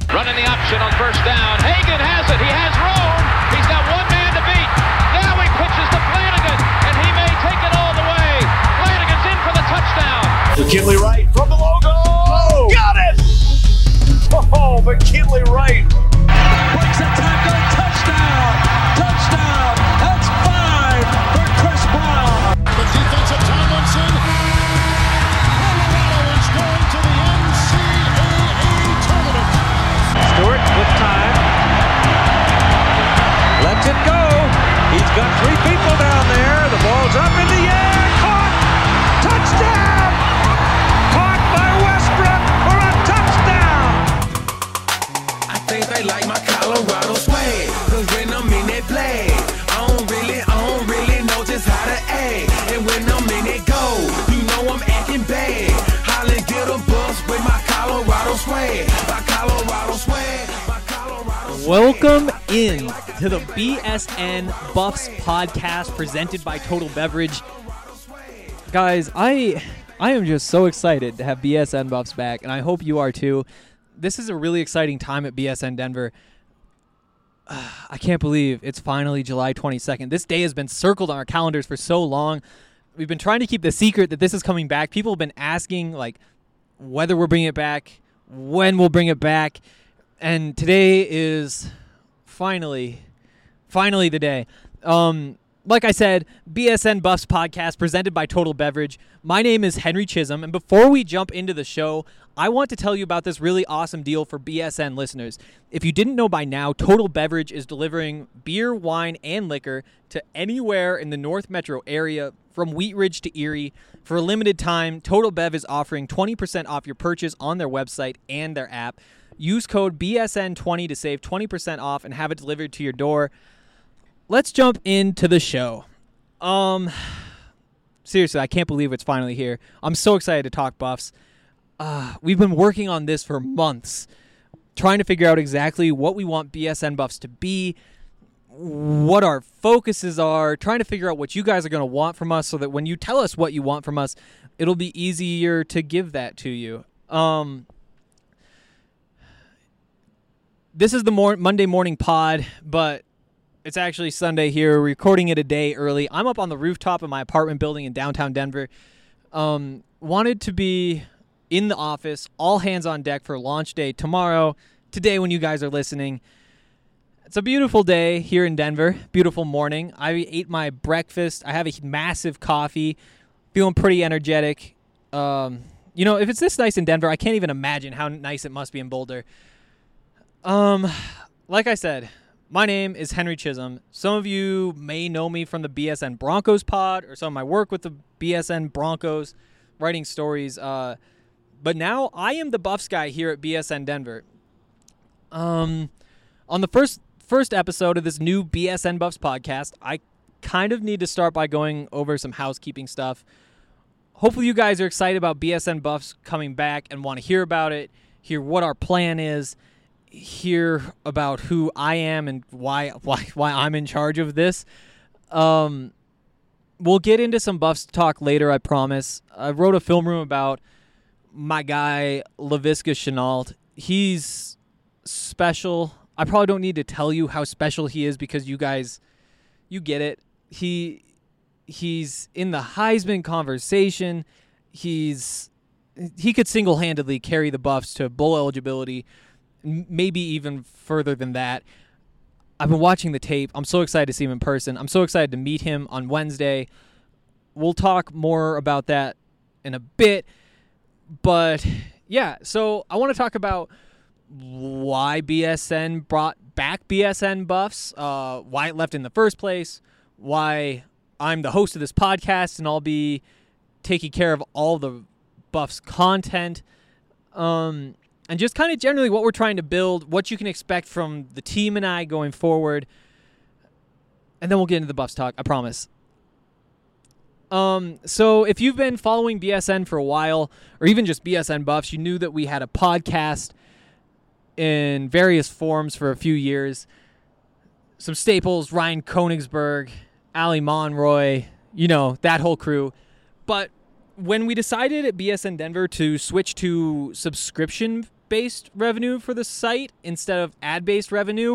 Running the option on first down. Hagan has it. He has room. He's got one man to beat. Now he pitches to Flanagan, and he may take it all the way. Flanagan's in for the touchdown. McKinley Wright from the logo. Oh, got it! Oh, McKinley Wright. Breaks a tackle. Touchdown. Touchdown. That's 5 for Chris Brown. The defensive Tomlinson. Colorado is going to the NCAA tournament. Stewart with time. Lets it go. He's got 3 people down there. The ball's up in the air. Caught. Touchdown. Caught by Westbrook for a touchdown. I think they like my Colorado swag. Cause when I'm in that play, I don't really know just how to act. And when I'm in it go, you know I'm acting bad. Holland get a bus with my Colorado swag. My Colorado swag. My Colorado swag. Welcome in to the BSN Buffs podcast presented by Total Beverage. Guys, I am just so excited to have BSN Buffs back, and I hope you are too. This is a really exciting time at BSN Denver. I can't believe it's finally July 22nd. This day has been circled on our calendars for so long. We've been trying to keep the secret that this is coming back. People have been asking, whether we're bringing it back, when we'll bring it back, and today is finally the day. Like I said, BSN Buffs podcast presented by Total Beverage. My name is Henry Chisholm, and before we jump into the show, I want to tell you about this really awesome deal for BSN listeners. If you didn't know by now, Total Beverage is delivering beer, wine, and liquor to anywhere in the North Metro area, from Wheat Ridge to Erie. For a limited time, Total Bev is offering 20% off your purchase on their website and their app. Use code BSN20 to save 20% off and have it delivered to your door. Let's jump into the show. Seriously, I can't believe it's finally here. I'm so excited to talk Buffs. We've been working on this for months, trying to figure out exactly what we want BSN Buffs to be, what our focuses are, trying to figure out what you guys are going to want from us so that when you tell us what you want from us, it'll be easier to give that to you. This is the Monday morning pod, but it's actually Sunday here. We're recording it a day early. I'm up on the rooftop of my apartment building in downtown Denver. Wanted to be in the office, all hands on deck for launch day tomorrow, today when you guys are listening. It's a beautiful day here in Denver, beautiful morning. I ate my breakfast. I have a massive coffee, feeling pretty energetic. If it's this nice in Denver, I can't even imagine how nice it must be in Boulder. Like I said, my name is Henry Chisholm. Some of you may know me from the BSN Broncos pod or some of my work with the BSN Broncos, writing stories. But now I am the Buffs guy here at BSN Denver. On the first episode of this new BSN Buffs podcast, I kind of need to start by going over some housekeeping stuff. Hopefully you guys are excited about BSN Buffs coming back and want to hear about it, hear what our plan is, hear about who I am and why I'm in charge of this. We'll get into some Buffs talk later, I promise. I wrote a film room about my guy, Laviska Shenault. He's special. I probably don't need to tell you how special he is because you guys, you get it. He's in the Heisman conversation. He could single-handedly carry the Buffs to bowl eligibility, maybe even further than that. I've been watching the tape. I'm so excited to see him in person. I'm so excited to meet him on Wednesday. We'll talk more about that in a bit. But, yeah, so I want to talk about why BSN brought back BSN Buffs, why it left in the first place, why I'm the host of this podcast and I'll be taking care of all the Buffs content, and just kind of generally what we're trying to build, what you can expect from the team and I going forward, and then we'll get into the Buffs talk, I promise. So if you've been following BSN for a while, or even just BSN Buffs, you knew that we had a podcast in various forms for a few years. Some staples, Ryan Koenigsberg, Ali Monroy, that whole crew. But when we decided at BSN Denver to switch to subscription based revenue for the site instead of ad based revenue.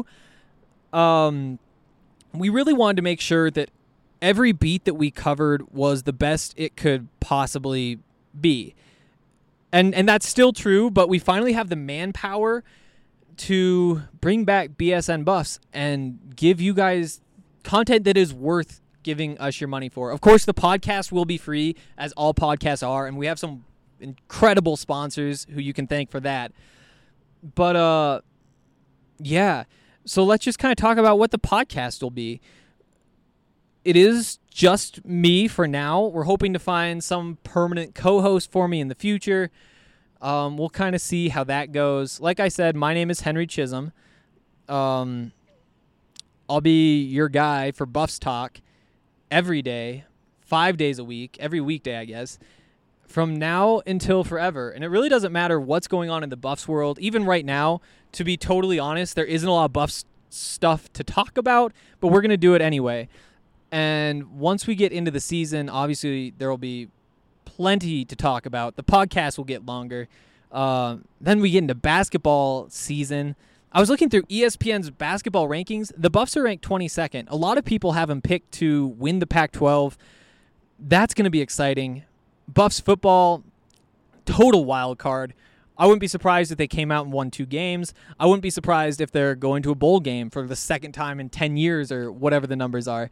We really wanted to make sure that every beat that we covered was the best it could possibly be. And that's still true, but we finally have the manpower to bring back BSN Buffs and give you guys content that is worth giving us your money for. Of course, the podcast will be free, as all podcasts are, and we have some incredible sponsors who you can thank for that. But, yeah. So let's just kind of talk about what the podcast will be. It is just me for now. We're hoping to find some permanent co-host for me in the future. We'll kind of see how that goes. Like I said, my name is Henry Chisholm. I'll be your guy for Buffs Talk every day, 5 days a week, every weekday, I guess, from now until forever. And it really doesn't matter what's going on in the Buffs world. Even right now, to be totally honest, there isn't a lot of Buffs stuff to talk about, but we're going to do it anyway. And once we get into the season, obviously there will be plenty to talk about. The podcast will get longer. Then we get into basketball season. I was looking through ESPN's basketball rankings. The Buffs are ranked 22nd. A lot of people have them picked to win the Pac-12. That's going to be exciting. Buffs football, total wild card. I wouldn't be surprised if they came out and won 2 games. I wouldn't be surprised if they're going to a bowl game for the second time in 10 years or whatever the numbers are.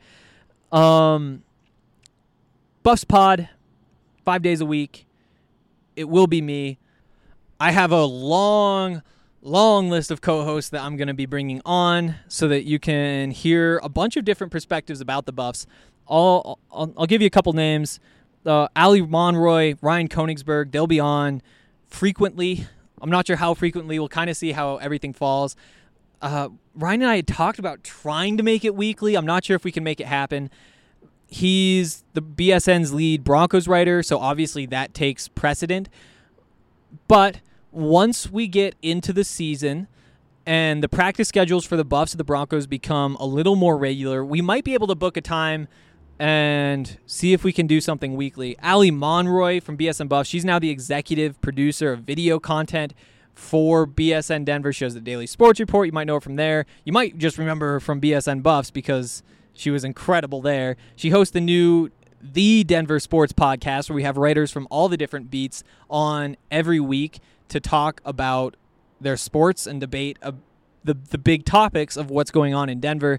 Buffs Pod, 5 days a week. It will be me. I have a long list of co-hosts that I'm going to be bringing on so that you can hear a bunch of different perspectives about the Buffs. I'll give you a couple names. Ali Monroy, Ryan Koenigsberg, they'll be on frequently. I'm not sure how frequently. We'll kind of see how everything falls. Ryan and I had talked about trying to make it weekly. I'm not sure if we can make it happen. He's the BSN's lead Broncos writer, so obviously that takes precedent. But once we get into the season and the practice schedules for the Buffs and the Broncos become a little more regular, we might be able to book a time and see if we can do something weekly. Ali Monroy from BSN Buffs, she's now the executive producer of video content for BSN Denver. She has the Daily Sports Report. You might know her from there. You might just remember her from BSN Buffs because she was incredible there. She hosts the Denver Sports Podcast, where we have writers from all the different beats on every week to talk about their sports and debate the big topics of what's going on in Denver.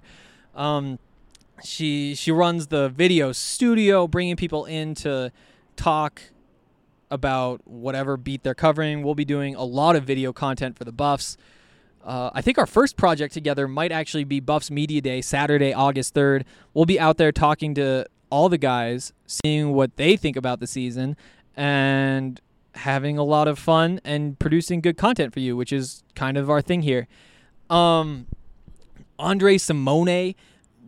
She runs the video studio, bringing people in to talk about whatever beat they're covering. We'll be doing a lot of video content for the Buffs. I think our first project together might actually be Buffs Media Day, Saturday, August 3rd. We'll be out there talking to all the guys, seeing what they think about the season, and having a lot of fun and producing good content for you, which is kind of our thing here. Andre Simone,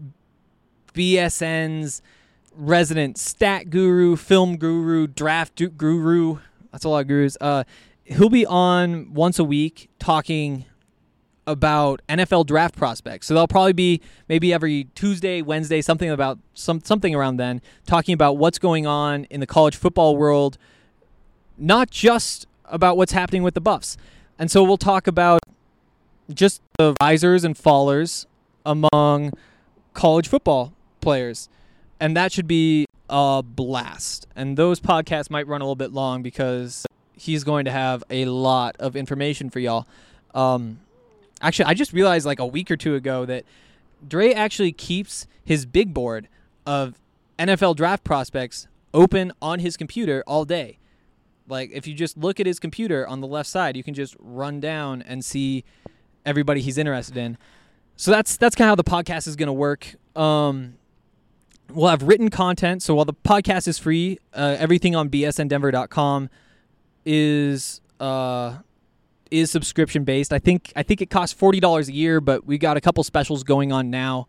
BSN's resident stat guru, film guru, draft guru. That's a lot of gurus. He'll be on once a week talking about NFL draft prospects. So they'll probably be maybe every Tuesday, Wednesday, something around then, talking about what's going on in the college football world, not just about what's happening with the Buffs. And so we'll talk about just the risers and fallers among college football players. And that should be a blast. And those podcasts might run a little bit long because he's going to have a lot of information for y'all. Actually, I just realized like a week or two ago that Dre actually keeps his big board of NFL draft prospects open on his computer all day. Like, if you just look at his computer on the left side, you can just run down and see everybody he's interested in. So that's kind of how the podcast is going to work. We'll have written content. So while the podcast is free, everything on bsndenver.com is subscription based. I think it costs $40 a year, but we got a couple specials going on now.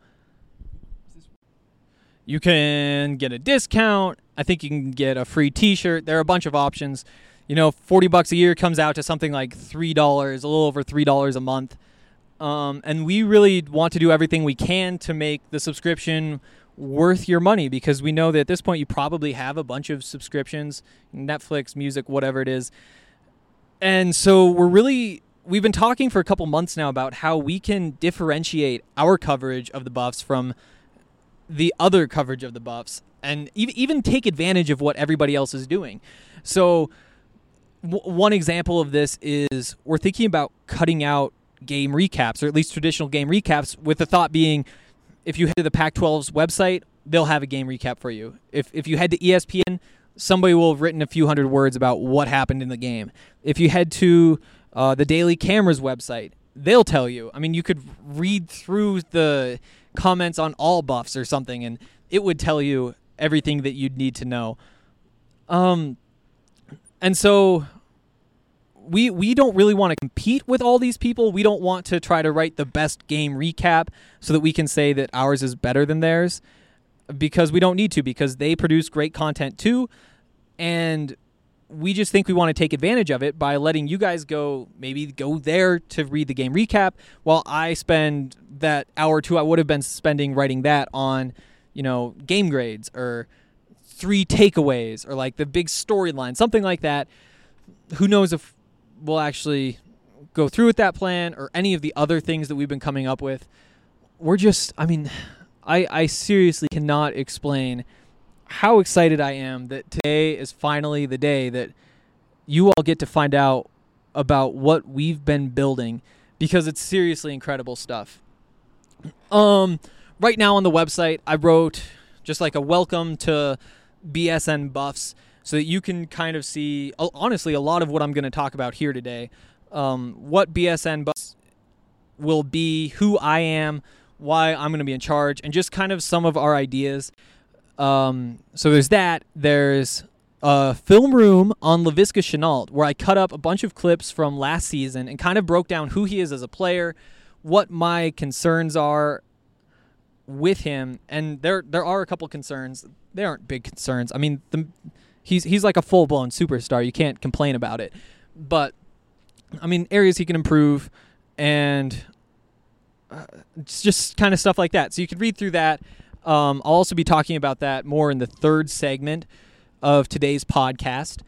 You can get a discount. I think you can get a free t-shirt. There are a bunch of options. You know, $40 a year comes out to something like $3, a little over $3 a month. And we really want to do everything we can to make the subscription worth your money, because we know that at this point you probably have a bunch of subscriptions, Netflix, music, whatever it is. And so we've been talking for a couple months now about how we can differentiate our coverage of the Buffs from the other coverage of the Buffs and even take advantage of what everybody else is doing. So one example of this is we're thinking about cutting out game recaps, or at least traditional game recaps, with the thought being if you head to the Pac-12's website, they'll have a game recap for you. If you head to ESPN, somebody will have written a few hundred words about what happened in the game. If you head to the Daily Camera's website, they'll tell you. I mean, you could read through the comments on all Buffs or something, and it would tell you everything that you'd need to know. And so we don't really want to compete with all these people. We don't want to try to write the best game recap so that we can say that ours is better than theirs, because we don't need to, because they produce great content too. And we just think we want to take advantage of it by letting you guys go there to read the game recap, while I spend that hour or two I would have been spending writing that on, game grades or 3 takeaways or like the big storyline, something like that. Who knows if we'll actually go through with that plan or any of the other things that we've been coming up with. I seriously cannot explain how excited I am that today is finally the day that you all get to find out about what we've been building, because it's seriously incredible stuff. Right now on the website, I wrote just like a welcome to BSN Buffs, so that you can kind of see, honestly, a lot of what I'm going to talk about here today. What BSN Buffs will be, who I am, why I'm going to be in charge, and just kind of some of our ideas. So there's that. There's a film room on Laviska Shenault, where I cut up a bunch of clips from last season and kind of broke down who he is as a player, what my concerns are with him. And there are a couple concerns. They aren't big concerns. I mean, he's like a full-blown superstar. You can't complain about it. But, I mean, areas he can improve, and it's just kind of stuff like that. So you can read through that. I'll also be talking about that more in the third segment of today's podcast.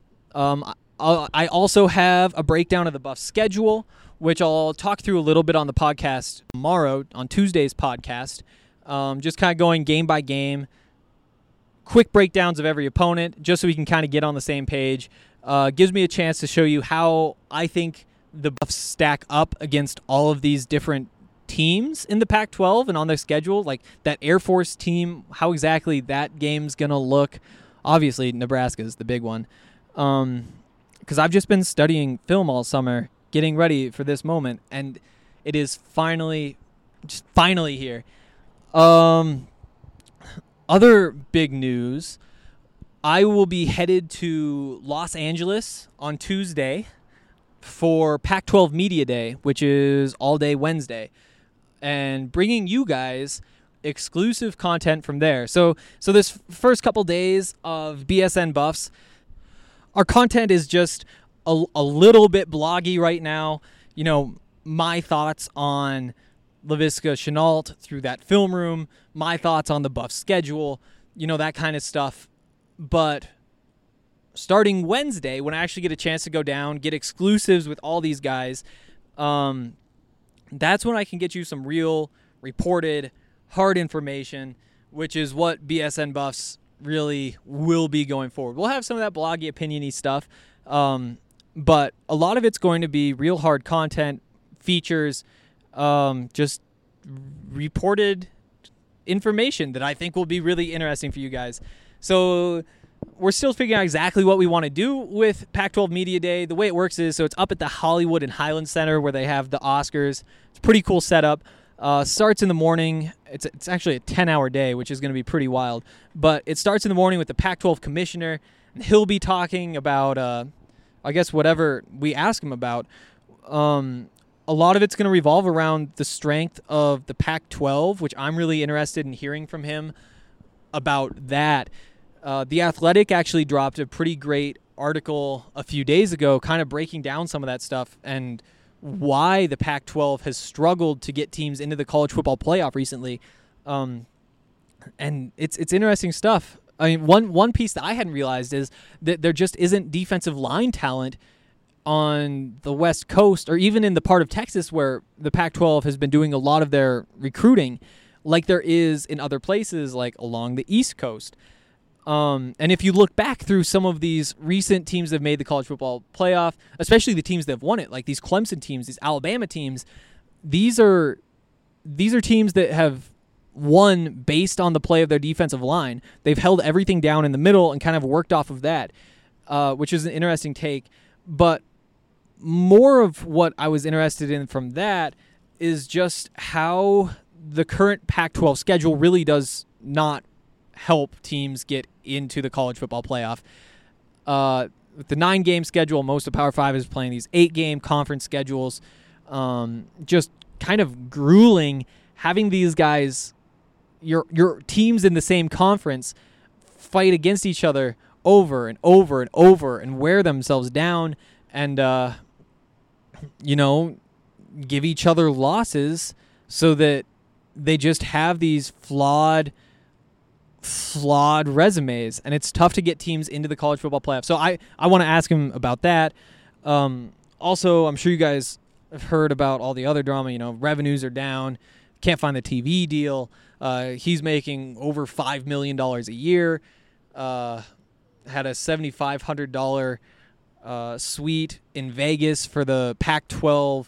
I also have a breakdown of the Buffs schedule, which I'll talk through a little bit on the podcast tomorrow, on Tuesday's podcast. Just kind of going game by game, quick breakdowns of every opponent, just so we can kind of get on the same page. Gives me a chance to show you how I think the Buffs stack up against all of these different teams in the Pac-12 and on their schedule, like that Air Force team, how exactly that game's going to look. Obviously, Nebraska's the big one. Because I've just been studying film all summer, getting ready for this moment, and it is finally here. Other big news, I will be headed to Los Angeles on Tuesday for Pac-12 Media Day, which is all day Wednesday, and bringing you guys exclusive content from there. So this first couple days of BSN Buffs, our content is just a little bit bloggy right now. My thoughts on Laviska Shenault through that film room, my thoughts on the Buffs schedule, that kind of stuff. But starting Wednesday, when I actually get a chance to go down, get exclusives with all these guys, that's when I can get you some real reported, hard information, which is what BSN Buffs really will be going forward. We'll have some of that bloggy, opinion-y stuff, but a lot of it's going to be real hard content, features, just reported information that I think will be really interesting for you guys. So we're still figuring out exactly what we want to do with Pac-12 Media Day. The way it works is, so it's up at the Hollywood and Highland Center where they have the Oscars. It's a pretty cool setup. Starts in the morning. It's actually a 10-hour day, which is going to be pretty wild. But it starts in the morning with the Pac-12 commissioner. And he'll be talking about, I guess, whatever we ask him about. A lot of it's going to revolve around the strength of the Pac-12, which I'm really interested in hearing from him about that. The Athletic actually dropped a pretty great article a few days ago, kind of breaking down some of that stuff and why the Pac-12 has struggled to get teams into the college football playoff recently. And it's interesting stuff. I mean, one piece that I hadn't realized is that there just isn't defensive line talent on the West Coast, or even in the part of Texas where the Pac-12 has been doing a lot of their recruiting, like there is in other places, like along the East Coast. And if you look back through some of these recent teams that have made the college football playoff, especially the teams that have won it, like these Clemson teams, these Alabama teams, these are teams that have won based on the play of their defensive line. They've held everything down in the middle and kind of worked off of that, which is an interesting take. But more of what I was interested in from that is just how the current Pac-12 schedule really does not help teams get into the college football playoff. With the 9-game schedule, most of Power 5 is playing these 8-game conference schedules. Just kind of grueling having these guys, your teams in the same conference, fight against each other over and over and over and wear themselves down and, give each other losses so that they just have these flawed resumes, and it's tough to get teams into the college football playoff. So I want to ask him about that. Also, I'm sure you guys have heard about all the other drama. Revenues are down, can't find the TV deal. He's making over $5 million a year. Had a $7,500 suite in Vegas for the Pac-12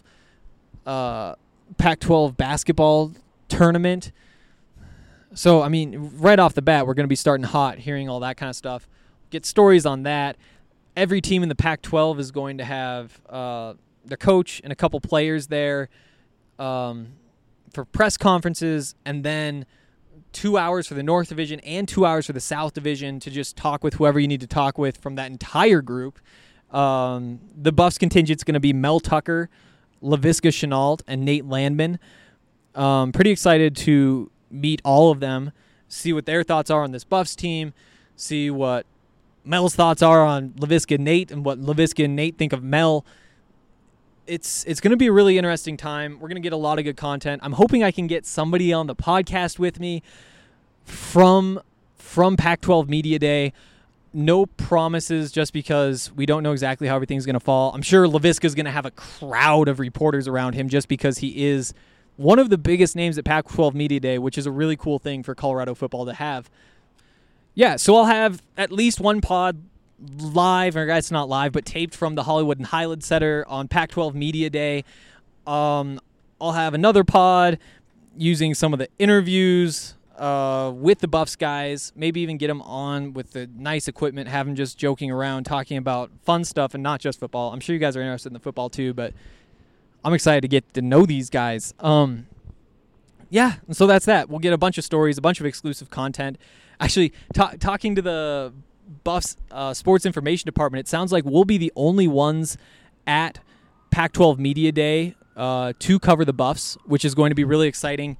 basketball tournament. So, right off the bat, we're going to be starting hot, hearing all that kind of stuff. Get stories on that. Every team in the Pac-12 is going to have their coach and a couple players there for press conferences, and then 2 hours for the North Division and 2 hours for the South Division to just talk with whoever you need to talk with from that entire group. The Buffs contingent's going to be Mel Tucker, Laviska Shenault, and Nate Landman. Pretty excited to meet all of them, see what their thoughts are on this Buffs team, see what Mel's thoughts are on Laviska and Nate, and what Laviska and Nate think of Mel. It's going to be a really interesting time. We're going to get a lot of good content. I'm hoping I can get somebody on the podcast with me from Pac-12 Media Day. No promises, just because we don't know exactly how everything's going to fall. I'm sure Laviska's going to have a crowd of reporters around him just because he is one of the biggest names at Pac-12 Media Day, which is a really cool thing for Colorado football to have. Yeah, so I'll have at least one pod live, or it's not live, but taped from the Hollywood and Highland Center on Pac-12 Media Day. I'll have another pod using some of the interviews with the Buffs guys, maybe even get them on with the nice equipment, have them just joking around, talking about fun stuff and not just football. I'm sure you guys are interested in the football too, but I'm excited to get to know these guys. Yeah, so that's that. We'll get a bunch of stories, a bunch of exclusive content. Actually, talking to the Buffs sports information department, it sounds like we'll be the only ones at Pac-12 Media Day to cover the Buffs, which is going to be really exciting.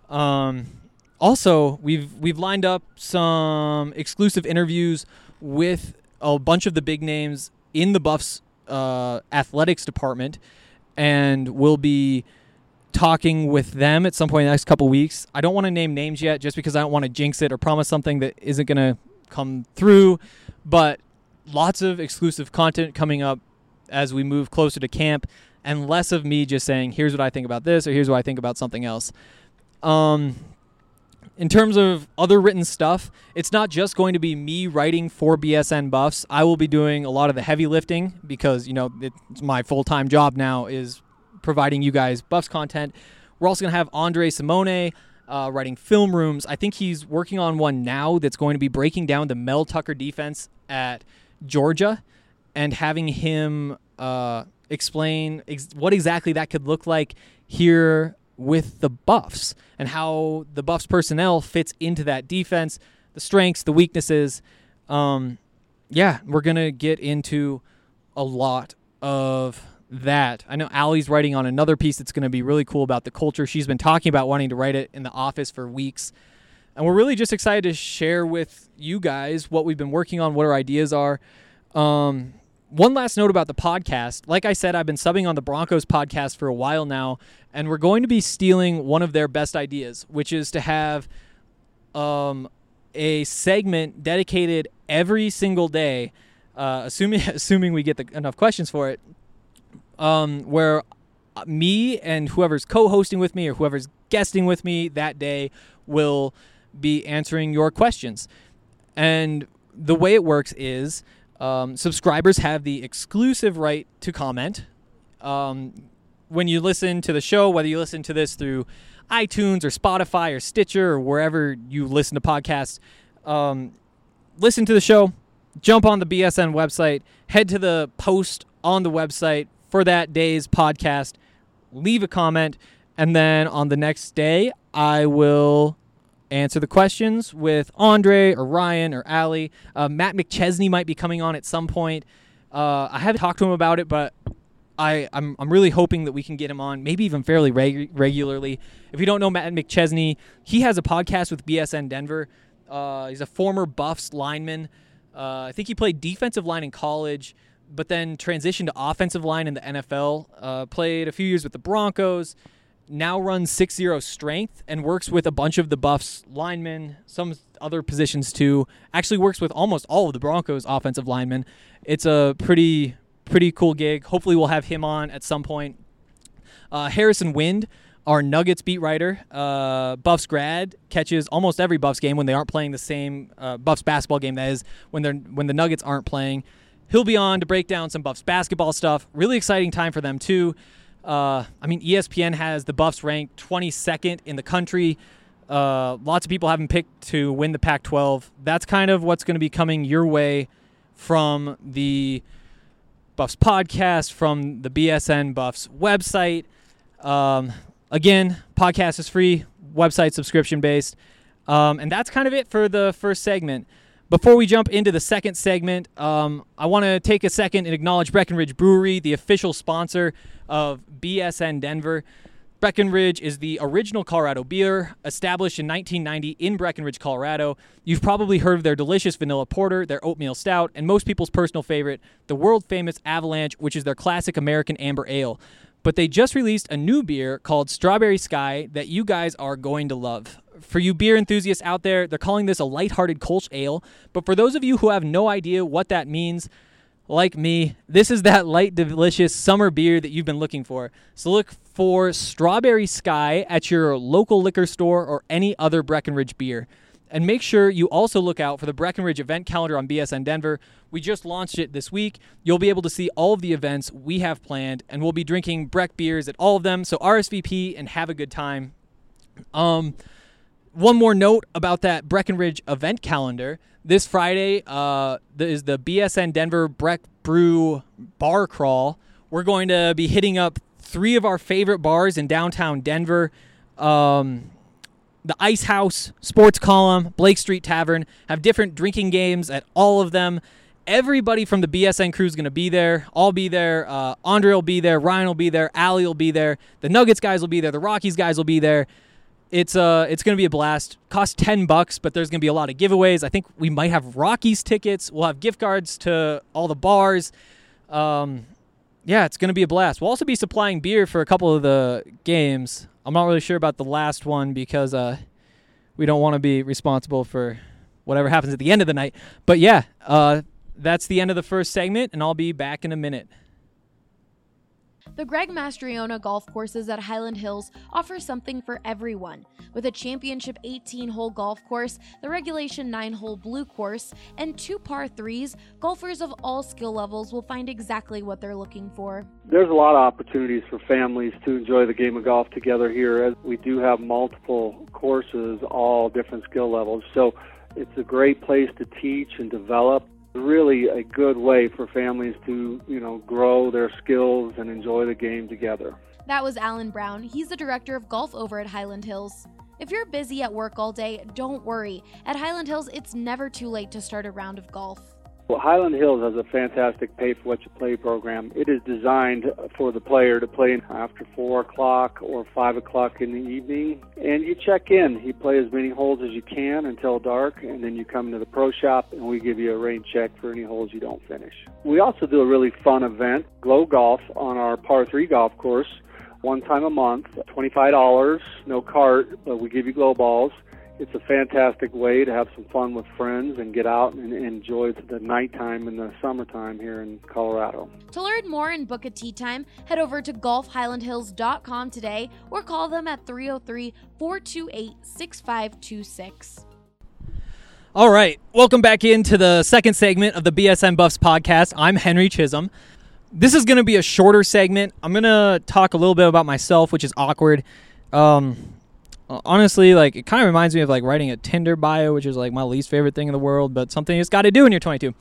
Also, we've lined up some exclusive interviews with a bunch of the big names in the Buffs athletics department, and we'll be talking with them at some point in the next couple weeks. I don't want to name names yet just because I don't want to jinx it or promise something that isn't going to come through, but lots of exclusive content coming up as we move closer to camp, and less of me just saying, here's what I think about this or here's what I think about something else. In terms of other written stuff, it's not just going to be me writing for BSN Buffs. I will be doing a lot of the heavy lifting because, it's my full-time job now is providing you guys Buffs content. We're also going to have Andre Simone writing film rooms. I think he's working on one now that's going to be breaking down the Mel Tucker defense at Georgia and having him explain what exactly that could look like here with the Buffs and how the Buffs personnel fits into that defense, the strengths, the weaknesses. We're going to get into a lot of that. I know Allie's writing on another piece that's going to be really cool about the culture. She's been talking about wanting to write it in the office for weeks. And we're really just excited to share with you guys what we've been working on, what our ideas are. One last note about the podcast. Like I said, I've been subbing on the Broncos podcast for a while now, and we're going to be stealing one of their best ideas, which is to have a segment dedicated every single day, assuming we get enough questions for it, where me and whoever's co-hosting with me or whoever's guesting with me that day will be answering your questions. And the way it works is subscribers have the exclusive right to comment. When you listen to the show, whether you listen to this through iTunes or Spotify or Stitcher or wherever you listen to podcasts, listen to the show, jump on the BSN website, head to the post on the website for that day's podcast, leave a comment, and then on the next day, I will answer the questions with Andre or Ryan or Allie. Matt McChesney might be coming on at some point. I haven't talked to him about it, but I'm really hoping that we can get him on, maybe even fairly regularly. If you don't know Matt McChesney, he has a podcast with BSN Denver. He's a former Buffs lineman. I think he played defensive line in college, but then transitioned to offensive line in the NFL. Played a few years with the Broncos. Now runs 6-0 strength and works with a bunch of the Buffs linemen, some other positions too. Actually works with almost all of the Broncos offensive linemen. It's a pretty cool gig. Hopefully we'll have him on at some point. Harrison Wind, our Nuggets beat writer, Buffs grad, catches almost every Buffs game when they aren't playing the same Buffs basketball game, that is, when the Nuggets aren't playing. He'll be on to break down some Buffs basketball stuff. Really exciting time for them too. ESPN has the Buffs ranked 22nd in the country. Lots of people have them picked to win the Pac-12. That's kind of what's going to be coming your way from the Buffs podcast, from the BSN Buffs website. Again, podcast is free, website subscription-based. And that's kind of it for the first segment. Before we jump into the second segment, I want to take a second and acknowledge Breckenridge Brewery, the official sponsor of BSN Denver. Breckenridge is the original Colorado beer, established in 1990 in Breckenridge, Colorado. You've probably heard of their delicious vanilla porter, their oatmeal stout, and most people's personal favorite, the world-famous Avalanche, which is their classic American amber ale. But they just released a new beer called Strawberry Sky that you guys are going to love. For you beer enthusiasts out there, they're calling this a lighthearted Kolsch ale. But for those of you who have no idea what that means, like me, this is that light, delicious summer beer that you've been looking for. So look for Strawberry Sky at your local liquor store or any other Breckenridge beer. And make sure you also look out for the Breckenridge event calendar on BSN Denver. We just launched it this week. You'll be able to see all of the events we have planned, and we'll be drinking Breck beers at all of them. So RSVP and have a good time. One more note about that Breckenridge event calendar. This Friday is the BSN Denver Breck Brew Bar Crawl. We're going to be hitting up 3 of our favorite bars in downtown Denver. The Ice House, Sports Column, Blake Street Tavern have different drinking games at all of them. Everybody from the BSN crew is going to be there. I'll be there. Andre will be there. Ryan will be there. Allie will be there. The Nuggets guys will be there. The Rockies guys will be there. It's going to be a blast. Costs $10, but there's going to be a lot of giveaways. I think we might have Rockies tickets. We'll have gift cards to all the bars. Yeah, it's going to be a blast. We'll also be supplying beer for a couple of the games. I'm not really sure about the last one because we don't want to be responsible for whatever happens at the end of the night. But yeah, that's the end of the first segment, and I'll be back in a minute. The Greg Mastriona golf courses at Highland Hills offer something for everyone. With a championship 18-hole golf course, the regulation 9-hole blue course, and 2 par 3s, golfers of all skill levels will find exactly what they're looking for. There's a lot of opportunities for families to enjoy the game of golf together here, as we do have multiple courses, all different skill levels. So it's a great place to teach and develop. Really a good way for families to, grow their skills and enjoy the game together. That was Alan Brown. He's the director of golf over at Highland Hills. If you're busy at work all day, don't worry. At Highland Hills, it's never too late to start a round of golf. Well, Highland Hills has a fantastic pay-for-what-you-play program. It is designed for the player to play after 4 o'clock or 5 o'clock in the evening. And you check in. You play as many holes as you can until dark, and then you come into the pro shop, and we give you a rain check for any holes you don't finish. We also do a really fun event, Glow Golf, on our par 3 golf course, one time a month, $25, no cart, but we give you glow balls. It's a fantastic way to have some fun with friends and get out and enjoy the nighttime and the summertime here in Colorado. To learn more and book a tee time, head over to golfhighlandhills.com today or call them at 303-428-6526. All right, welcome back into the second segment of the BSN Buffs podcast. I'm Henry Chisholm. This is going to be a shorter segment. I'm going to talk a little bit about myself, which is awkward. Honestly, like, it kind of reminds me of like writing a Tinder bio, which is like my least favorite thing in the world, but something you just got to do when you're 22.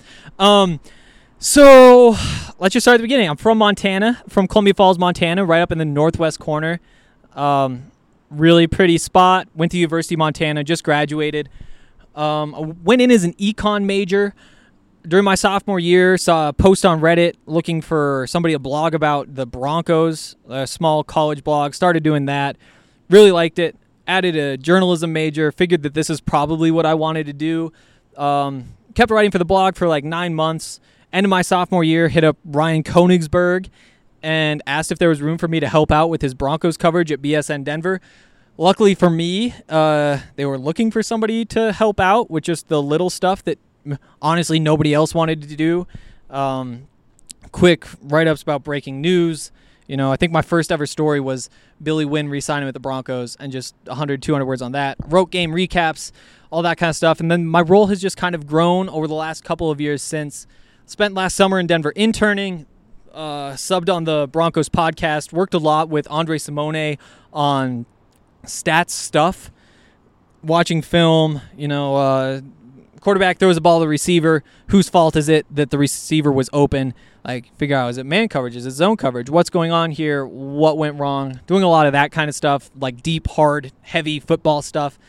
So let's just start at the beginning. I'm from Montana, from Columbia Falls, Montana, right up in the northwest corner. Really pretty spot. Went to University of Montana, just graduated. I went in as an econ major. During my sophomore year, saw a post on Reddit looking for somebody to blog about the Broncos, a small college blog. Started doing that. Really liked it. Added a journalism major. Figured that this is probably what I wanted to do. Kept writing for the blog for like 9 months. End of my sophomore year, hit up Ryan Koenigsberg and asked if there was room for me to help out with his Broncos coverage at BSN Denver. Luckily for me, they were looking for somebody to help out with just the little stuff that honestly nobody else wanted to do. Quick write-ups about breaking news. You know, I think my first ever story was Billy Wynn re-signing with the Broncos and just 100, 200 words on that. Wrote game recaps, all that kind of stuff. And then my role has just kind of grown over the last couple of years since. Spent last summer in Denver interning, subbed on the Broncos podcast, worked a lot with Andre Simone on stats stuff, watching film, quarterback throws the ball to the receiver. Whose fault is it that the receiver was open? Like, figure out, is it man coverage? Is it zone coverage? What's going on here? What went wrong? Doing a lot of that kind of stuff, like deep, hard, heavy football stuff.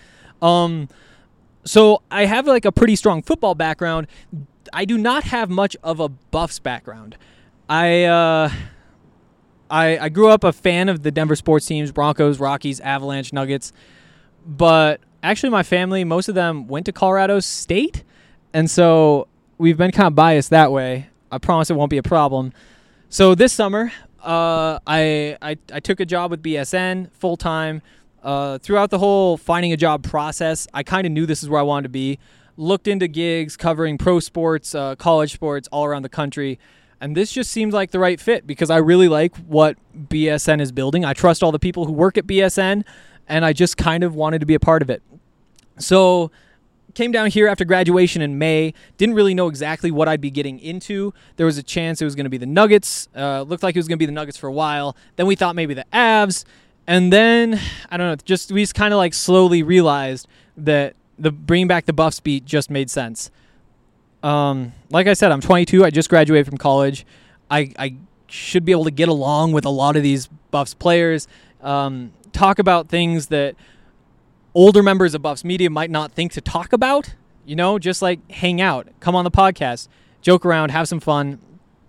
So I have like a pretty strong football background. I do not have much of a Buffs background. I grew up a fan of the Denver sports teams, Broncos, Rockies, Avalanche, Nuggets. But actually my family, most of them went to Colorado State. And so we've been kind of biased that way. I promise it won't be a problem. So this summer, I took a job with BSN full-time. Throughout the whole finding a job process, I kind of knew this is where I wanted to be. Looked into gigs covering pro sports, college sports all around the country. And this just seemed like the right fit because I really like what BSN is building. I trust all the people who work at BSN, and I just kind of wanted to be a part of it. So came down here after graduation in May. Didn't really know exactly what I'd be getting into. There was a chance it was going to be the Nuggets. Looked like it was going to be the Nuggets for a while. Then we thought maybe the Avs. And then, I don't know, we just kind of like slowly realized that the bringing back the Buffs beat just made sense. Like I said, I'm 22. I just graduated from college. I should be able to get along with a lot of these Buffs players. Talk about things that older members of Buffs media might not think to talk about. Just like hang out, come on the podcast, joke around, have some fun.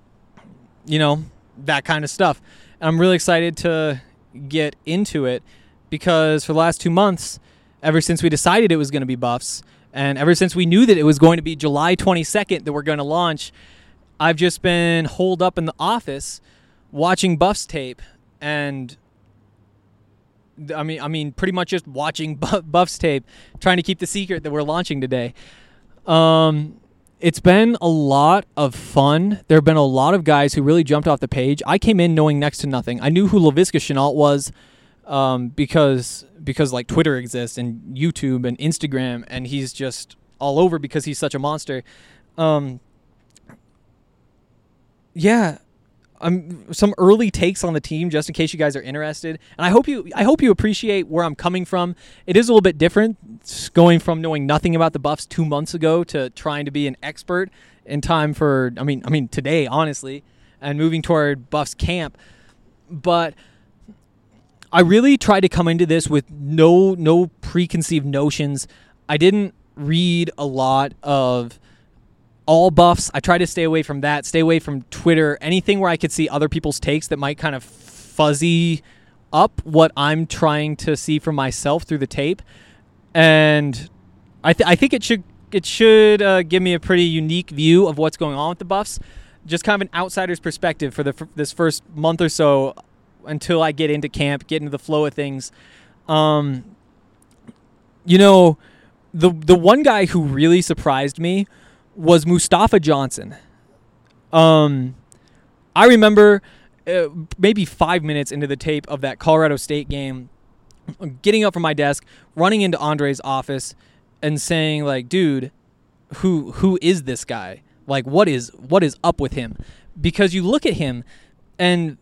That kind of stuff. And I'm really excited to get into it because for the last 2 months, ever since we decided it was going to be Buffs, and ever since we knew that it was going to be July 22nd that we're going to launch, I've just been holed up in the office watching Buffs tape, and I mean, pretty much just watching Buffs tape, trying to keep the secret that we're launching today. It's been a lot of fun. There have been a lot of guys who really jumped off the page. I came in knowing next to nothing. I knew who Laviska Shenault was because like Twitter exists and YouTube and Instagram, and he's just all over because he's such a monster. Some early takes on the team, just in case you guys are interested. And I hope you appreciate where I'm coming from. It is a little bit different. It's going from knowing nothing about the Buffs 2 months ago to trying to be an expert in time for, today, honestly, and moving toward Buffs camp. But I really tried to come into this with no preconceived notions. I didn't read a lot of all Buffs. I try to stay away from that, stay away from Twitter, anything where I could see other people's takes that might kind of fuzzy up what I'm trying to see for myself through the tape. And I think it should give me a pretty unique view of what's going on with the Buffs, just kind of an outsider's perspective for this first month or so until I get into camp, get into the flow of things. the one guy who really surprised me was Mustafa Johnson. I remember maybe 5 minutes into the tape of that Colorado State game, getting up from my desk, running into Andre's office, and saying, like, dude, who is this guy? Like, what is up with him? Because you look at him, and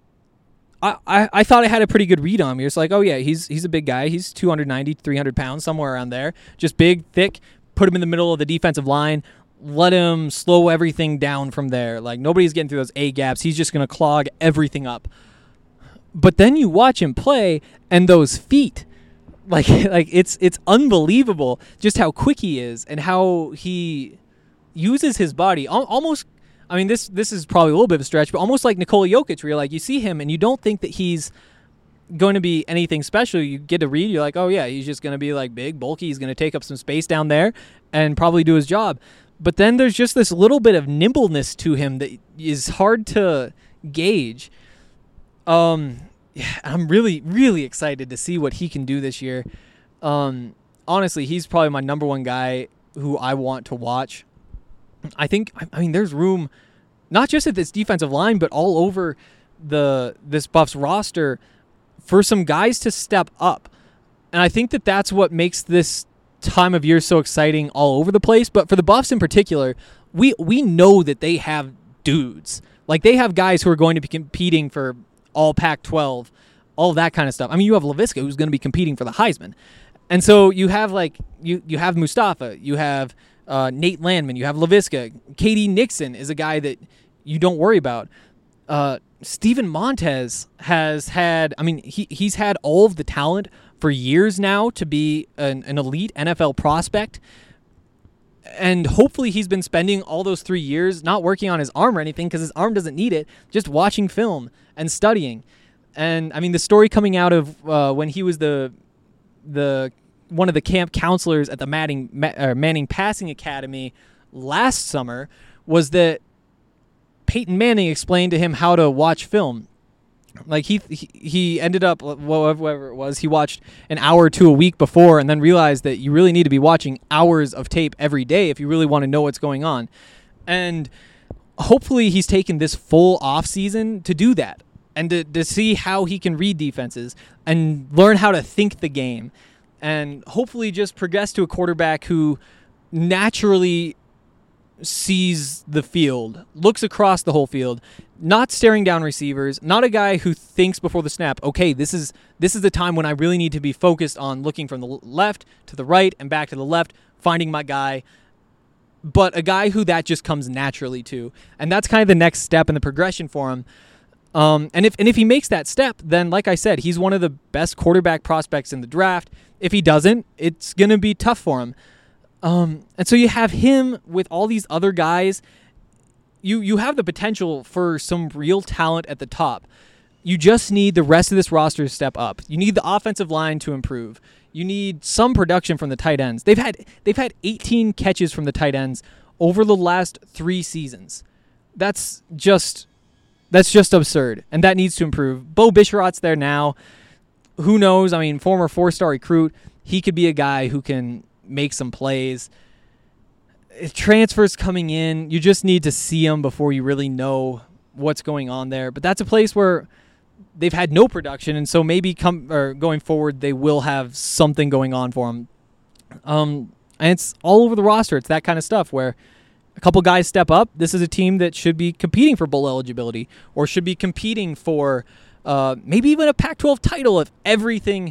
I thought I had a pretty good read on him. You're just like, oh yeah, he's a big guy. He's 290, 300 pounds, somewhere around there. Just big, thick. Put him in the middle of the defensive line. Let him slow everything down from there. Like, nobody's getting through those A gaps. He's just going to clog everything up. But then you watch him play, and those feet, like it's unbelievable just how quick he is and how he uses his body almost. I mean, this is probably a little bit of a stretch, but almost like Nikola Jokic, where you're like, you see him and you don't think that he's going to be anything special. You get to read, you're like, oh yeah, he's just going to be like big, bulky. He's going to take up some space down there and probably do his job. But then there's just this little bit of nimbleness to him that is hard to gauge. Yeah, I'm really, really excited to see what he can do this year. Honestly, he's probably my number one guy who I want to watch. I mean, there's room, not just at this defensive line, but all over this Buffs roster for some guys to step up. And I think that that's what makes this time of year so exciting all over the place. But for the Buffs in particular, we know that they have dudes. Like, they have guys who are going to be competing for all Pac-12, all that kind of stuff. I mean, you have Laviska, who's going to be competing for the Heisman. And so you have, like, you have Mustafa, you have Nate Landman, you have Laviska. KD Nixon is a guy that you don't worry about. Steven Montez has had, I mean, he's had all of the talent for years now to be an elite NFL prospect. And hopefully he's been spending all those 3 years not working on his arm or anything, because his arm doesn't need it, just watching film and studying. And, I mean, the story coming out of when he was the one of the camp counselors at the Manning Passing Academy last summer was that Peyton Manning explained to him how to watch film. Like, he ended up, whatever it was, he watched an hour or two a week before, and then realized that you really need to be watching hours of tape every day if you really want to know what's going on. And hopefully he's taken this full off season to do that, and to see how he can read defenses and learn how to think the game, and hopefully just progress to a quarterback who naturally sees the field, looks across the whole field, not staring down receivers, not a guy who thinks before the snap, okay, this is the time when I really need to be focused on looking from the left to the right and back to the left, finding my guy, but a guy who that just comes naturally to. And that's kind of the next step in the progression for him. And if he makes that step, then like I said, he's one of the best quarterback prospects in the draft. If he doesn't, it's going to be tough for him. And so you have him with all these other guys. You have the potential for some real talent at the top. You just need the rest of this roster to step up. You need the offensive line to improve. You need some production from the tight ends. They've had 18 catches from the tight ends over the last 3 seasons. That's just absurd, and that needs to improve. Bo Bisharat's there now. Who knows? I mean, former 4-star recruit. He could be a guy who can make some plays. Transfers coming in, you just need to see them before you really know what's going on there. But that's a place where they've had no production, and so maybe going forward they will have something going on for them. And it's all over the roster. It's that kind of stuff where a couple guys step up. This is a team that should be competing for bowl eligibility, or should be competing for maybe even a Pac-12 title if everything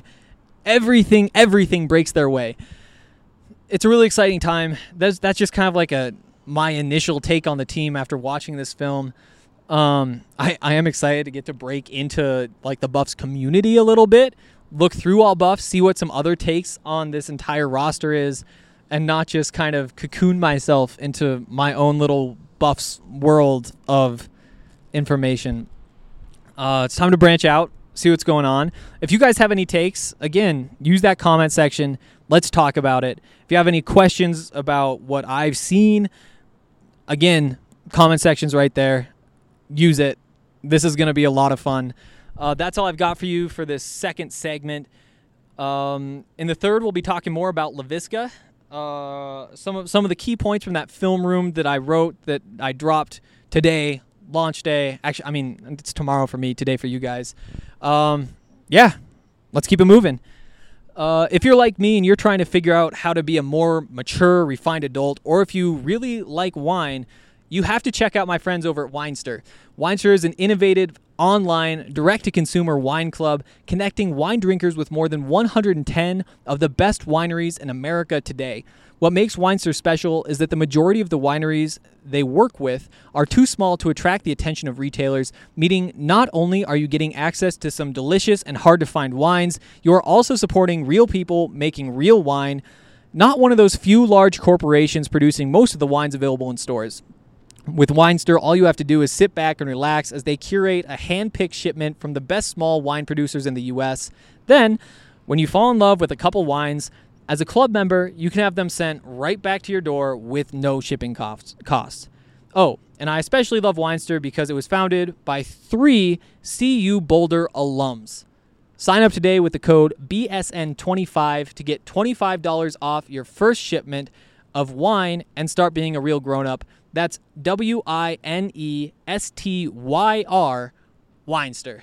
breaks their way. It's a really exciting time. That's just kind of like my initial take on the team after watching this film. I am excited to get to break into like the Buffs community a little bit, look through all Buffs, see what some other takes on this entire roster is, and not just kind of cocoon myself into my own little Buffs world of information. It's time to branch out, see what's going on. If you guys have any takes, again, use that comment section. Let's talk about it. If you have any questions about what I've seen, again, comment section's right there. Use it. This is going to be a lot of fun. That's all I've got for you for this second segment. In the third, we'll be talking more about Laviska some of the key points from that film room that I wrote that I dropped today, launch day. Actually, I mean, it's tomorrow for me, today for you guys. Yeah, let's keep it moving. If you're like me and you're trying to figure out how to be a more mature, refined adult, or if you really like wine, you have to check out my friends over at Winester. Winester is an innovative, online, direct-to-consumer wine club connecting wine drinkers with more than 110 of the best wineries in America today. What makes Winester special is that the majority of the wineries they work with are too small to attract the attention of retailers, meaning not only are you getting access to some delicious and hard-to-find wines, you are also supporting real people making real wine, not one of those few large corporations producing most of the wines available in stores. With Winester, all you have to do is sit back and relax as they curate a hand-picked shipment from the best small wine producers in the U.S. Then, when you fall in love with a couple wines, as a club member, you can have them sent right back to your door with no shipping costs. Oh, and I especially love Winester because it was founded by 3 CU Boulder alums. Sign up today with the code BSN25 to get $25 off your first shipment of wine and start being a real grown-up. That's WINESTYR, Winester.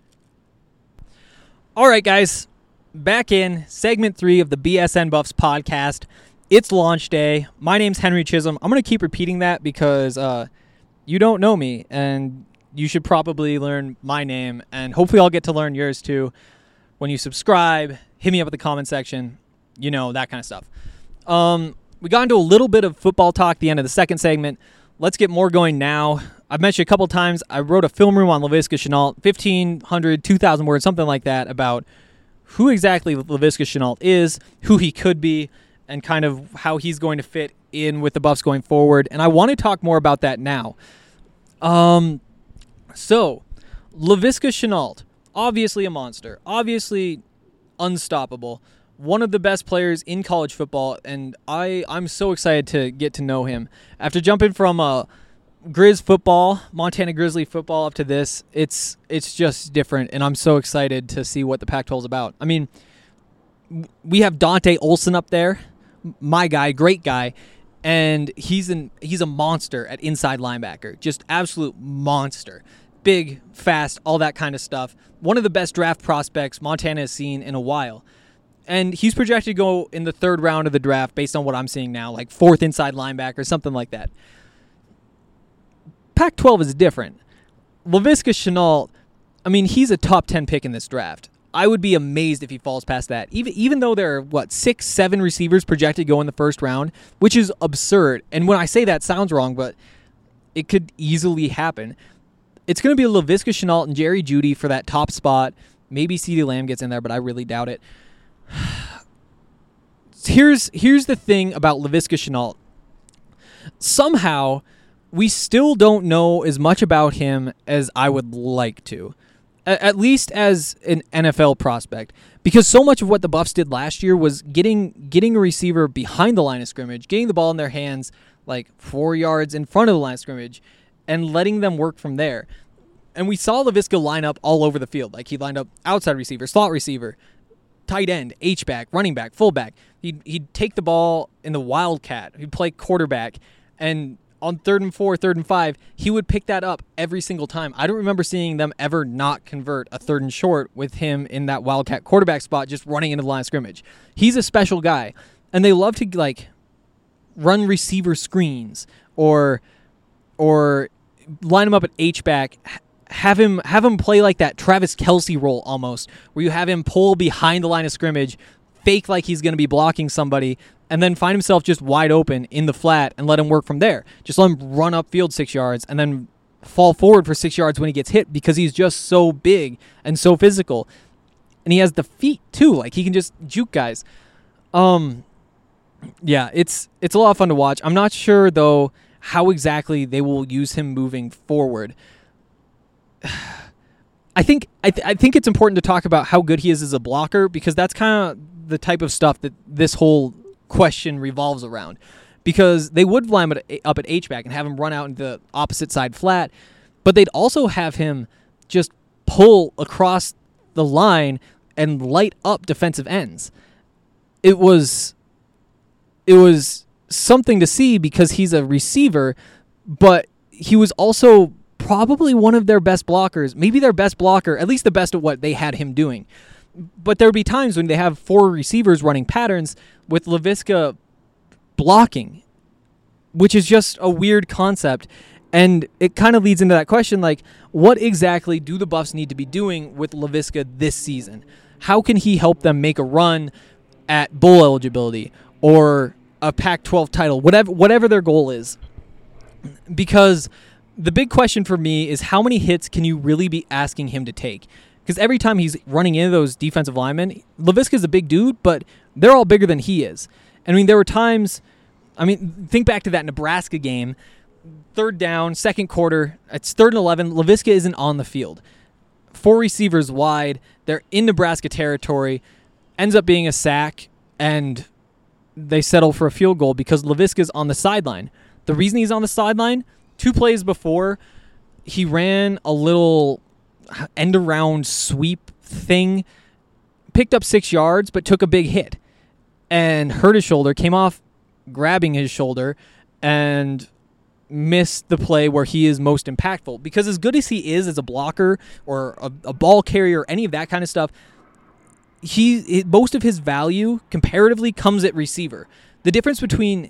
All right, guys, back in segment 3 of the BSN Buffs podcast. It's launch day. My name's Henry Chisholm. I'm going to keep repeating that because you don't know me, and you should probably learn my name, and hopefully I'll get to learn yours too when you subscribe, hit me up at the comment section, you know, that kind of stuff. We got into a little bit of football talk at the end of the second segment. Let's get more going now. I've mentioned a couple times, I wrote a film room on Laviska Shenault, 1,500, 2,000 words, something like that, about who exactly Laviska Shenault is, who he could be, and kind of how he's going to fit in with the Buffs going forward. And I want to talk more about that now. So, Laviska Shenault, obviously a monster, obviously unstoppable, one of the best players in college football, and I'm so excited to get to know him. After jumping from Grizz football, Montana Grizzly football, up to this, it's just different, and I'm so excited to see what the Pac-12 is about. I mean, we have Dante Olson up there, my guy, great guy, and he's a monster at inside linebacker, just absolute monster. Big, fast, all that kind of stuff. One of the best draft prospects Montana has seen in a while. And he's projected to go in the 3rd round of the draft based on what I'm seeing now, like 4th inside linebacker, something like that. Pac-12 is different. Laviska Shenault, I mean, he's a top 10 pick in this draft. I would be amazed if he falls past that. Even though there are, 6, 7 receivers projected to go in the 1st round, which is absurd. And when I say that, it sounds wrong, but it could easily happen. It's going to be Laviska Shenault and Jerry Jeudy for that top spot. Maybe CeeDee Lamb gets in there, but I really doubt it. Here's the thing about Laviska Shenault. Somehow, we still don't know as much about him as I would like to, at least as an NFL prospect, because so much of what the Buffs did last year was getting a receiver behind the line of scrimmage, getting the ball in their hands like 4 yards in front of the line of scrimmage, and letting them work from there. And we saw Laviska line up all over the field. Like, he lined up outside receiver, slot receiver, tight end, H-back, running back, fullback. He'd take the ball in the wildcat. He'd play quarterback. And on 3rd and 4, 3rd and 5, he would pick that up every single time. I don't remember seeing them ever not convert a 3rd and short with him in that wildcat quarterback spot just running into the line of scrimmage. He's a special guy. And they love to, run receiver screens or line him up at H-back, have him play like that Travis Kelce role almost, where you have him pull behind the line of scrimmage, fake like he's going to be blocking somebody, and then find himself just wide open in the flat and let him work from there. Just let him run upfield 6 yards and then fall forward for 6 yards when he gets hit because he's just so big and so physical. And he has the feet too. Like, he can just juke guys. Yeah, it's a lot of fun to watch. I'm not sure, though, how exactly they will use him moving forward. I think it's important to talk about how good he is as a blocker, because that's kind of the type of stuff that this whole question revolves around. Because they would line him up at H-back and have him run out into the opposite side flat, but they'd also have him just pull across the line and light up defensive ends. It was it was something to see because he's a receiver, but he was also probably one of their best blockers, maybe their best blocker, at least the best at what they had him doing. But there would be times when they have 4 receivers running patterns with Laviska blocking, which is just a weird concept. And it kind of leads into that question, like, what exactly do the Buffs need to be doing with Laviska this season? How can he help them make a run at bowl eligibility or a Pac-12 title, whatever their goal is? Because the big question for me is how many hits can you really be asking him to take? Because every time he's running into those defensive linemen, Laviska's a big dude, but they're all bigger than he is. I mean, there were times, think back to that Nebraska game, 3rd down, 2nd quarter, it's 3rd and 11, Laviska isn't on the field. 4 receivers wide, they're in Nebraska territory, ends up being a sack, and they settle for a field goal because Laviska's on the sideline. The reason he's on the sideline, 2 plays before, he ran a little end-around sweep thing, picked up 6 yards, but took a big hit and hurt his shoulder, came off grabbing his shoulder, and missed the play where he is most impactful. Because as good as he is as a blocker or a ball carrier, any of that kind of stuff, most of his value comparatively comes at receiver. The difference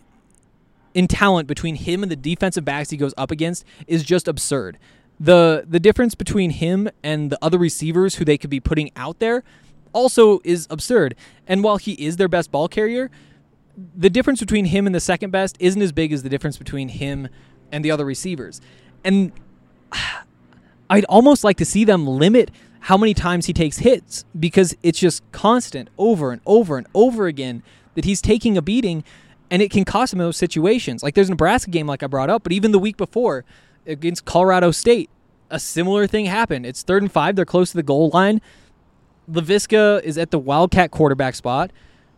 in talent between him and the defensive backs he goes up against is just absurd. The difference between him and the other receivers who they could be putting out there also is absurd. And while he is their best ball carrier, the difference between him and the second best isn't as big as the difference between him and the other receivers. And I'd almost like to see them limit how many times he takes hits, because it's just constant over and over and over again that he's taking a beating, and it can cost him in those situations. Like there's a Nebraska game like I brought up, but even the week before against Colorado State, a similar thing happened. It's 3rd and 5. They're close to the goal line. Laviska is at the Wildcat quarterback spot,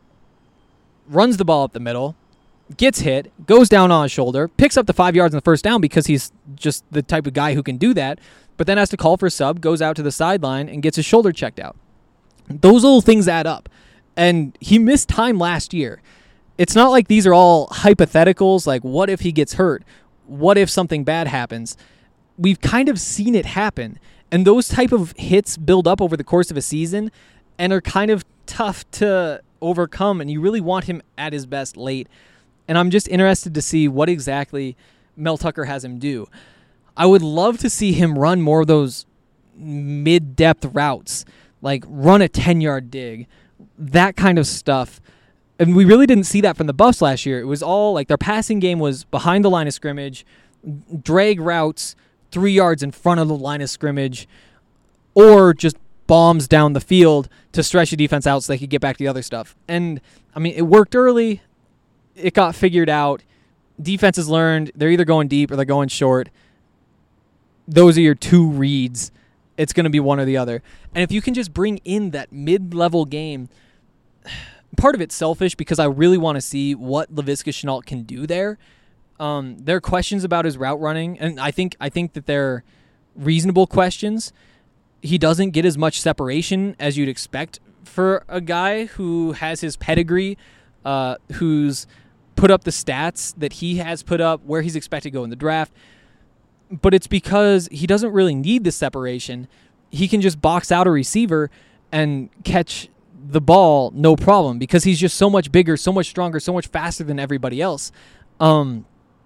runs the ball up the middle, gets hit, goes down on his shoulder, picks up the 5 yards on the first down because he's just the type of guy who can do that, but then has to call for a sub, goes out to the sideline, and gets his shoulder checked out. Those little things add up. And he missed time last year. It's not like these are all hypotheticals, like what if he gets hurt? What if something bad happens? We've kind of seen it happen. And those type of hits build up over the course of a season and are kind of tough to overcome, and you really want him at his best late. And I'm just interested to see what exactly Mel Tucker has him do. I would love to see him run more of those mid-depth routes, like run a 10-yard dig, that kind of stuff. And we really didn't see that from the Buffs last year. It was all like their passing game was behind the line of scrimmage, drag routes 3 yards in front of the line of scrimmage, or just bombs down the field to stretch the defense out so they could get back to the other stuff. And, it worked early. It got figured out. Defenses learned they're either going deep or they're going short. Those are your 2 reads. It's going to be one or the other. And if you can just bring in that mid-level game, part of it's selfish because I really want to see what Laviska Shenault can do there. There are questions about his route running, and I think that they're reasonable questions. He doesn't get as much separation as you'd expect for a guy who has his pedigree, who's put up the stats that he has put up, where he's expected to go in the draft. But it's because he doesn't really need the separation. He can just box out a receiver and catch the ball no problem because he's just so much bigger, so much stronger, so much faster than everybody else. You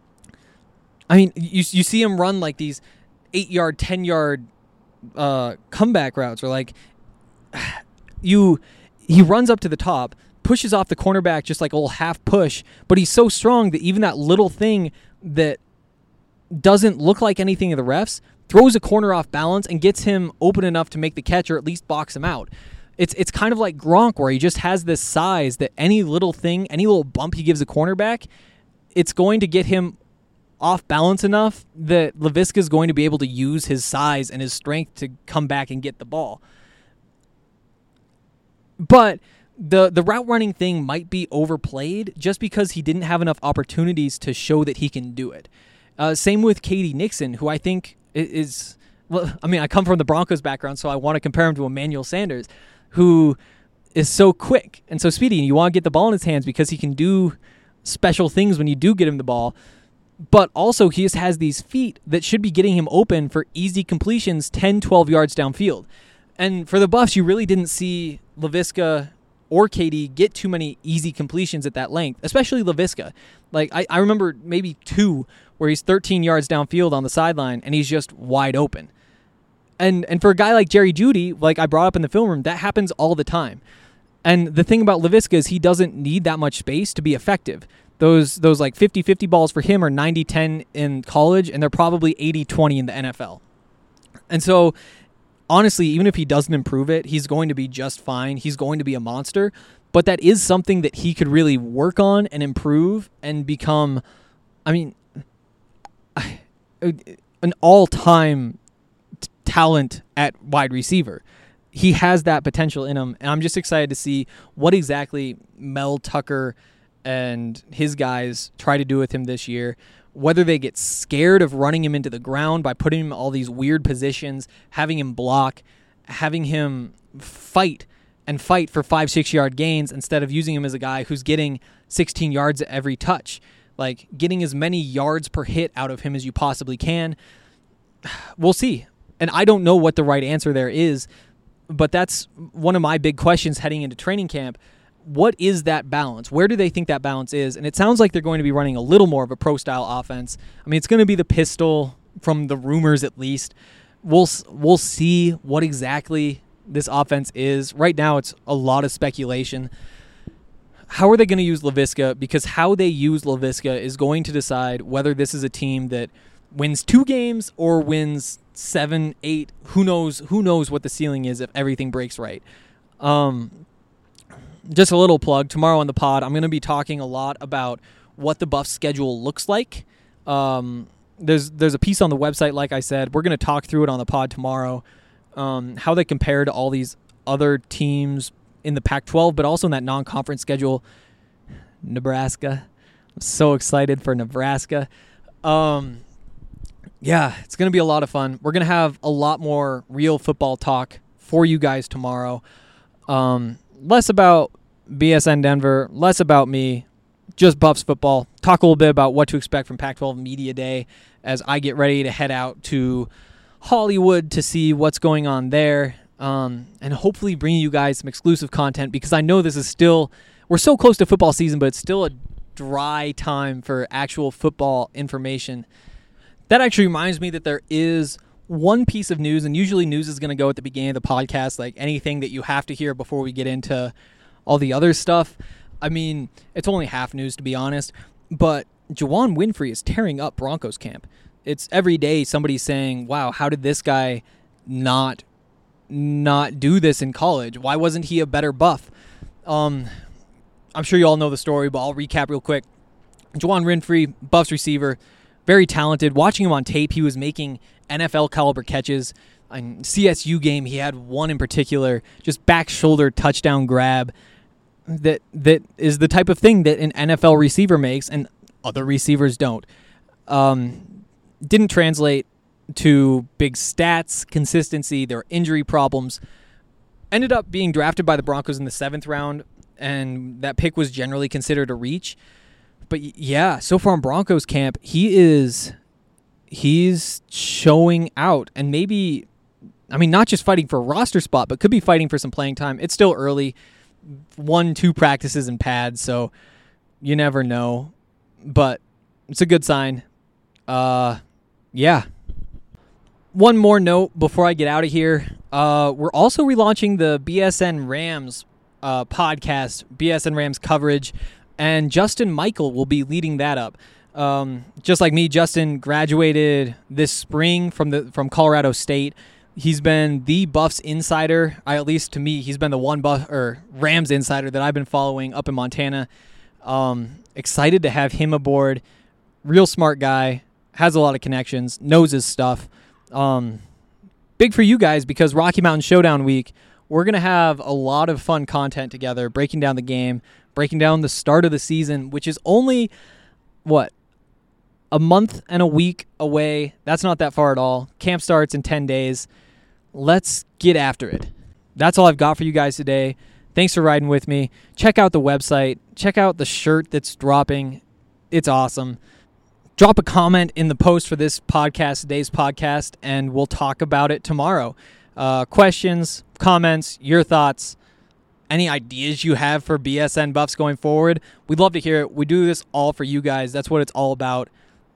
see him run like these 8-yard, 10-yard comeback routes, or like he runs up to the top, pushes off the cornerback just like a little half push, but he's so strong that even that little thing that doesn't look like anything to the refs throws a corner off balance and gets him open enough to make the catch or at least box him out. It's kind of like Gronk, where he just has this size that any little thing, any little bump he gives a cornerback, it's going to get him off balance enough that Laviska is going to be able to use his size and his strength to come back and get the ball. But the route running thing might be overplayed just because he didn't have enough opportunities to show that he can do it. Same with K.D. Nixon, who I think is, I come from the Broncos background, so I want to compare him to Emmanuel Sanders, who is so quick and so speedy, and you want to get the ball in his hands because he can do special things when you do get him the ball. But also he just has these feet that should be getting him open for easy completions 10, 12 yards downfield. And for the Buffs, you really didn't see Laviska or KD get too many easy completions at that length, especially Laviska. Like, I remember maybe 2 where he's 13 yards downfield on the sideline and he's just wide open. And for a guy like Jerry Jeudy, like I brought up in the film room, that happens all the time. And the thing about Laviska is he doesn't need that much space to be effective. Those like 50-50 balls for him are 90-10 in college, and they're probably 80-20 in the NFL. And so, honestly, even if he doesn't improve it, he's going to be just fine. He's going to be a monster. But that is something that he could really work on and improve and become, an all-time talent at wide receiver. He has that potential in him, and I'm just excited to see what exactly Mel Tucker and his guys try to do with him this year, whether they get scared of running him into the ground by putting him in all these weird positions, having him block, having him fight for 5-6 yard gains instead of using him as a guy who's getting 16 yards at every touch, like getting as many yards per hit out of him as you possibly can. We'll see. And I don't know what the right answer there is, but that's one of my big questions heading into training camp. What is that balance? Where do they think that balance is? And it sounds like they're going to be running a little more of a pro-style offense. I mean, it's going to be the pistol from the rumors at least. We'll see what exactly this offense is. Right now, it's a lot of speculation. How are they going to use Laviska? Because how they use Laviska is going to decide whether this is a team that wins 2 games or wins 7, 8. Who knows what the ceiling is if everything breaks right. Just a little plug. Tomorrow on the pod, I'm going to be talking a lot about what the Buffs schedule looks like. There's a piece on the website, like I said. We're going to talk through it on the pod tomorrow, how they compare to all these other teams in the Pac-12, but also in that non-conference schedule. Nebraska. I'm so excited for Nebraska. Yeah, it's going to be a lot of fun. We're going to have a lot more real football talk for you guys tomorrow. Less about BSN Denver, less about me, just Buffs football. Talk a little bit about what to expect from Pac-12 Media Day as I get ready to head out to Hollywood to see what's going on there, and hopefully bring you guys some exclusive content, because I know this is still, we're so close to football season, but it's still a dry time for actual football information. That actually reminds me that there is one piece of news, and usually news is going to go at the beginning of the podcast, like anything that you have to hear before we get into all the other stuff. I mean, it's only half news, to be honest, but Juwann Winfree is tearing up Broncos camp. It's every day somebody's saying, wow, how did this guy not do this in college? Why wasn't he a better Buff? I'm sure you all know the story, but I'll recap real quick. Juwann Winfree, Buffs receiver, very talented. Watching him on tape, he was making NFL caliber catches. In CSU game, he had one in particular, just back shoulder touchdown grab that is the type of thing that an NFL receiver makes and other receivers don't. Didn't translate to big stats, consistency. There were injury problems. Ended up being drafted by the Broncos in the 7th round, and that pick was generally considered a reach. But yeah, so far in Broncos camp, he's showing out, and maybe, I mean, not just fighting for a roster spot, but could be fighting for some playing time. It's still early, 1-2 practices and pads, so you never know, but it's a good sign. Yeah. One more note before I get out of here. We're also relaunching the BSN Rams podcast, BSN Rams coverage, and Justin Michael will be leading that up. Just like me, Justin graduated this spring from Colorado State. He's been the Buffs insider. At least to me, he's been the one Rams insider that I've been following up in Montana. Excited to have him aboard. Real smart guy, has a lot of connections, knows his stuff. Big for you guys, because Rocky Mountain Showdown week, we're going to have a lot of fun content together, breaking down the game, breaking down the start of the season, which is only, a month and a week away. That's not that far at all. Camp starts in 10 days. Let's get after it. That's all I've got for you guys today. Thanks for riding with me. Check out the website. Check out the shirt that's dropping. It's awesome. Drop a comment in the post for this podcast, today's podcast, and we'll talk about it tomorrow. Questions, comments, your thoughts, any ideas you have for BSN Buffs going forward. We'd love to hear it. We do this all for you guys. That's what it's all about.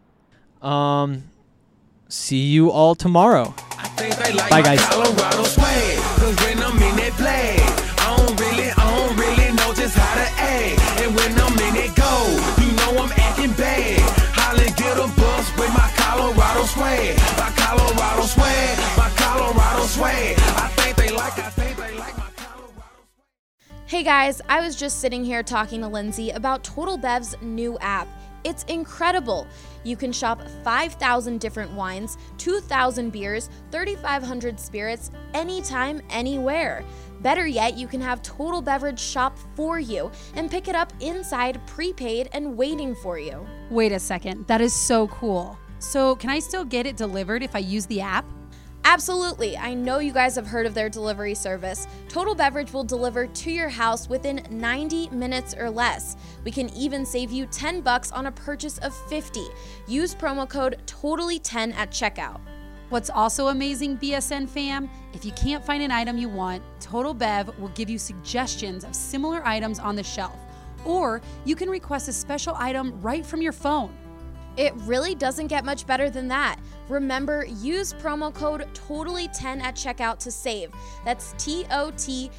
See you all tomorrow. Bye, guys. Colorado swag, 'cause when I'm in that play, I don't really know just how to act. And when I'm in it go, you know I'm acting bad. Holla, get a bus with my Colorado swag. My Colorado swag, my Colorado swag. I think they like my Colorado swag. Hey guys, I was just sitting here talking to Lindsay about Total Bev's new app. It's incredible. You can shop 5,000 different wines, 2,000 beers, 3,500 spirits, anytime, anywhere. Better yet, you can have Total Beverage shop for you and pick it up inside, prepaid, and waiting for you. Wait a second, that is so cool. So can I still get it delivered if I use the app? Absolutely. I know you guys have heard of their delivery service. Total Beverage will deliver to your house within 90 minutes or less. We can even save you $10 on a purchase of $50. Use promo code TOTALLY10 at checkout. What's also amazing, BSN fam, if you can't find an item you want, Total Bev will give you suggestions of similar items on the shelf. Or you can request a special item right from your phone. It really doesn't get much better than that. Remember, use promo code TOTALLY10 at checkout to save. That's TOTALLY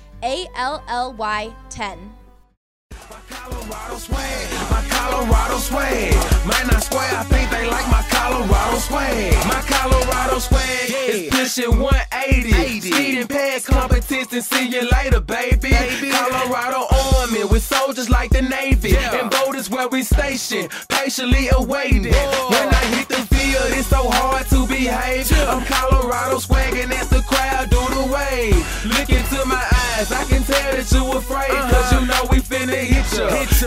10. My Colorado swag, my Colorado swag. Man, I swear I think they like my Colorado swag. My Colorado swag is pushing 180. Speeding past competition, see you later, baby. Colorado Army with soldiers like the Navy. And boat is where we station, patiently awaiting. When I hit the field, it's so hard to behave. I'm Colorado swagging as the crowd do the wave. Look into my eyes, I can tell that you afraid. Cause you know we finna hit ya.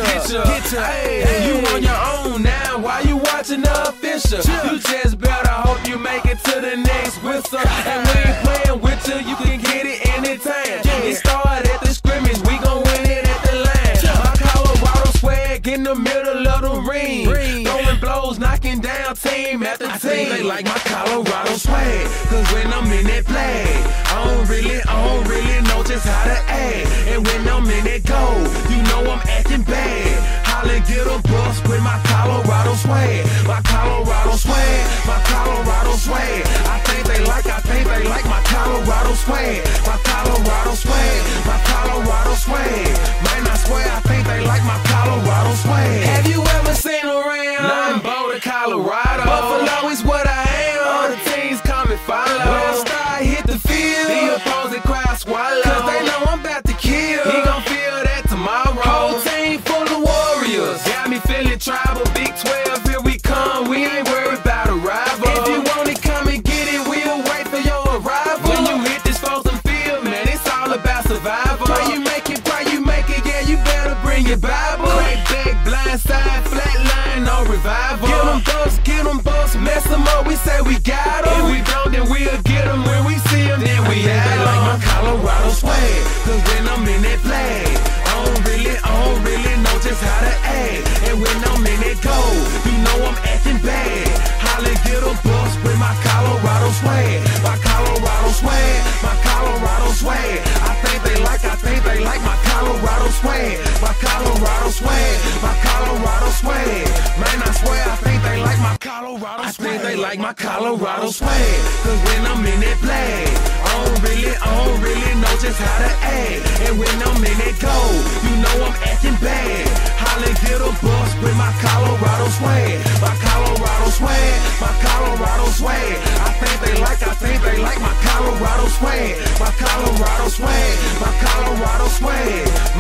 Hey, you on your own now, why you watching the official? You just better hope you make it to the next whistle. And we ain't playing with you, you can get it anytime. It started at the scrimmage, we gon' win it at the line. My Colorado swag in the middle of the ring. Throwing blows, knocking down team after team. I think they like my Colorado swag, cause when I'm in that play, I don't really know just how to act. And when I'm in that go, you know I'm acting bad. Holla, get a bus with my Colorado swag. My Colorado swag, my Colorado swag. I think they like my Colorado swag. My Colorado swag, my Colorado swag. Man, I swear I think they like my Colorado swag. Have you ever seen around? Nothing Boulder, Colorado. Buffalo is what I am. All the teams come and follow. When I start hit the field, the opposing crowd swallow. Cause they know I'm about to kill. He gon' feel that tomorrow. Whole team full of warriors. Got me feeling tribal. Big 12, here we come. We ain't worried about a rival. If you want it, come and get it. We'll wait for your arrival. When you hit this frozen field, man, it's all about survival. Pray you make it, yeah, you better bring your Bible. Crack back, blind side, flat line, no revival. Get them bucks, mess them up, we say we got them. If we don't, then we'll get them. When we see them, then we have them. Like my Colorado swag, cause when I'm in that play, I don't really know just how to act. And when I'm in that go, you know I'm acting bad. Holla, get a bus with my Colorado swag. My Colorado swag, my Colorado swag. I think they like my Colorado swag. My Colorado swag, my Colorado swag. Man, I swear I think they like my Colorado swag. I think they like my Colorado swag. Cause when I'm in that play, I don't really know just how to act. And when I'm in that go, you know I'm acting bad. Holla, get a bus with my Colorado swag. My Colorado swag, my Colorado swag. I think they like my Colorado swag. My Colorado swag, my Colorado swag.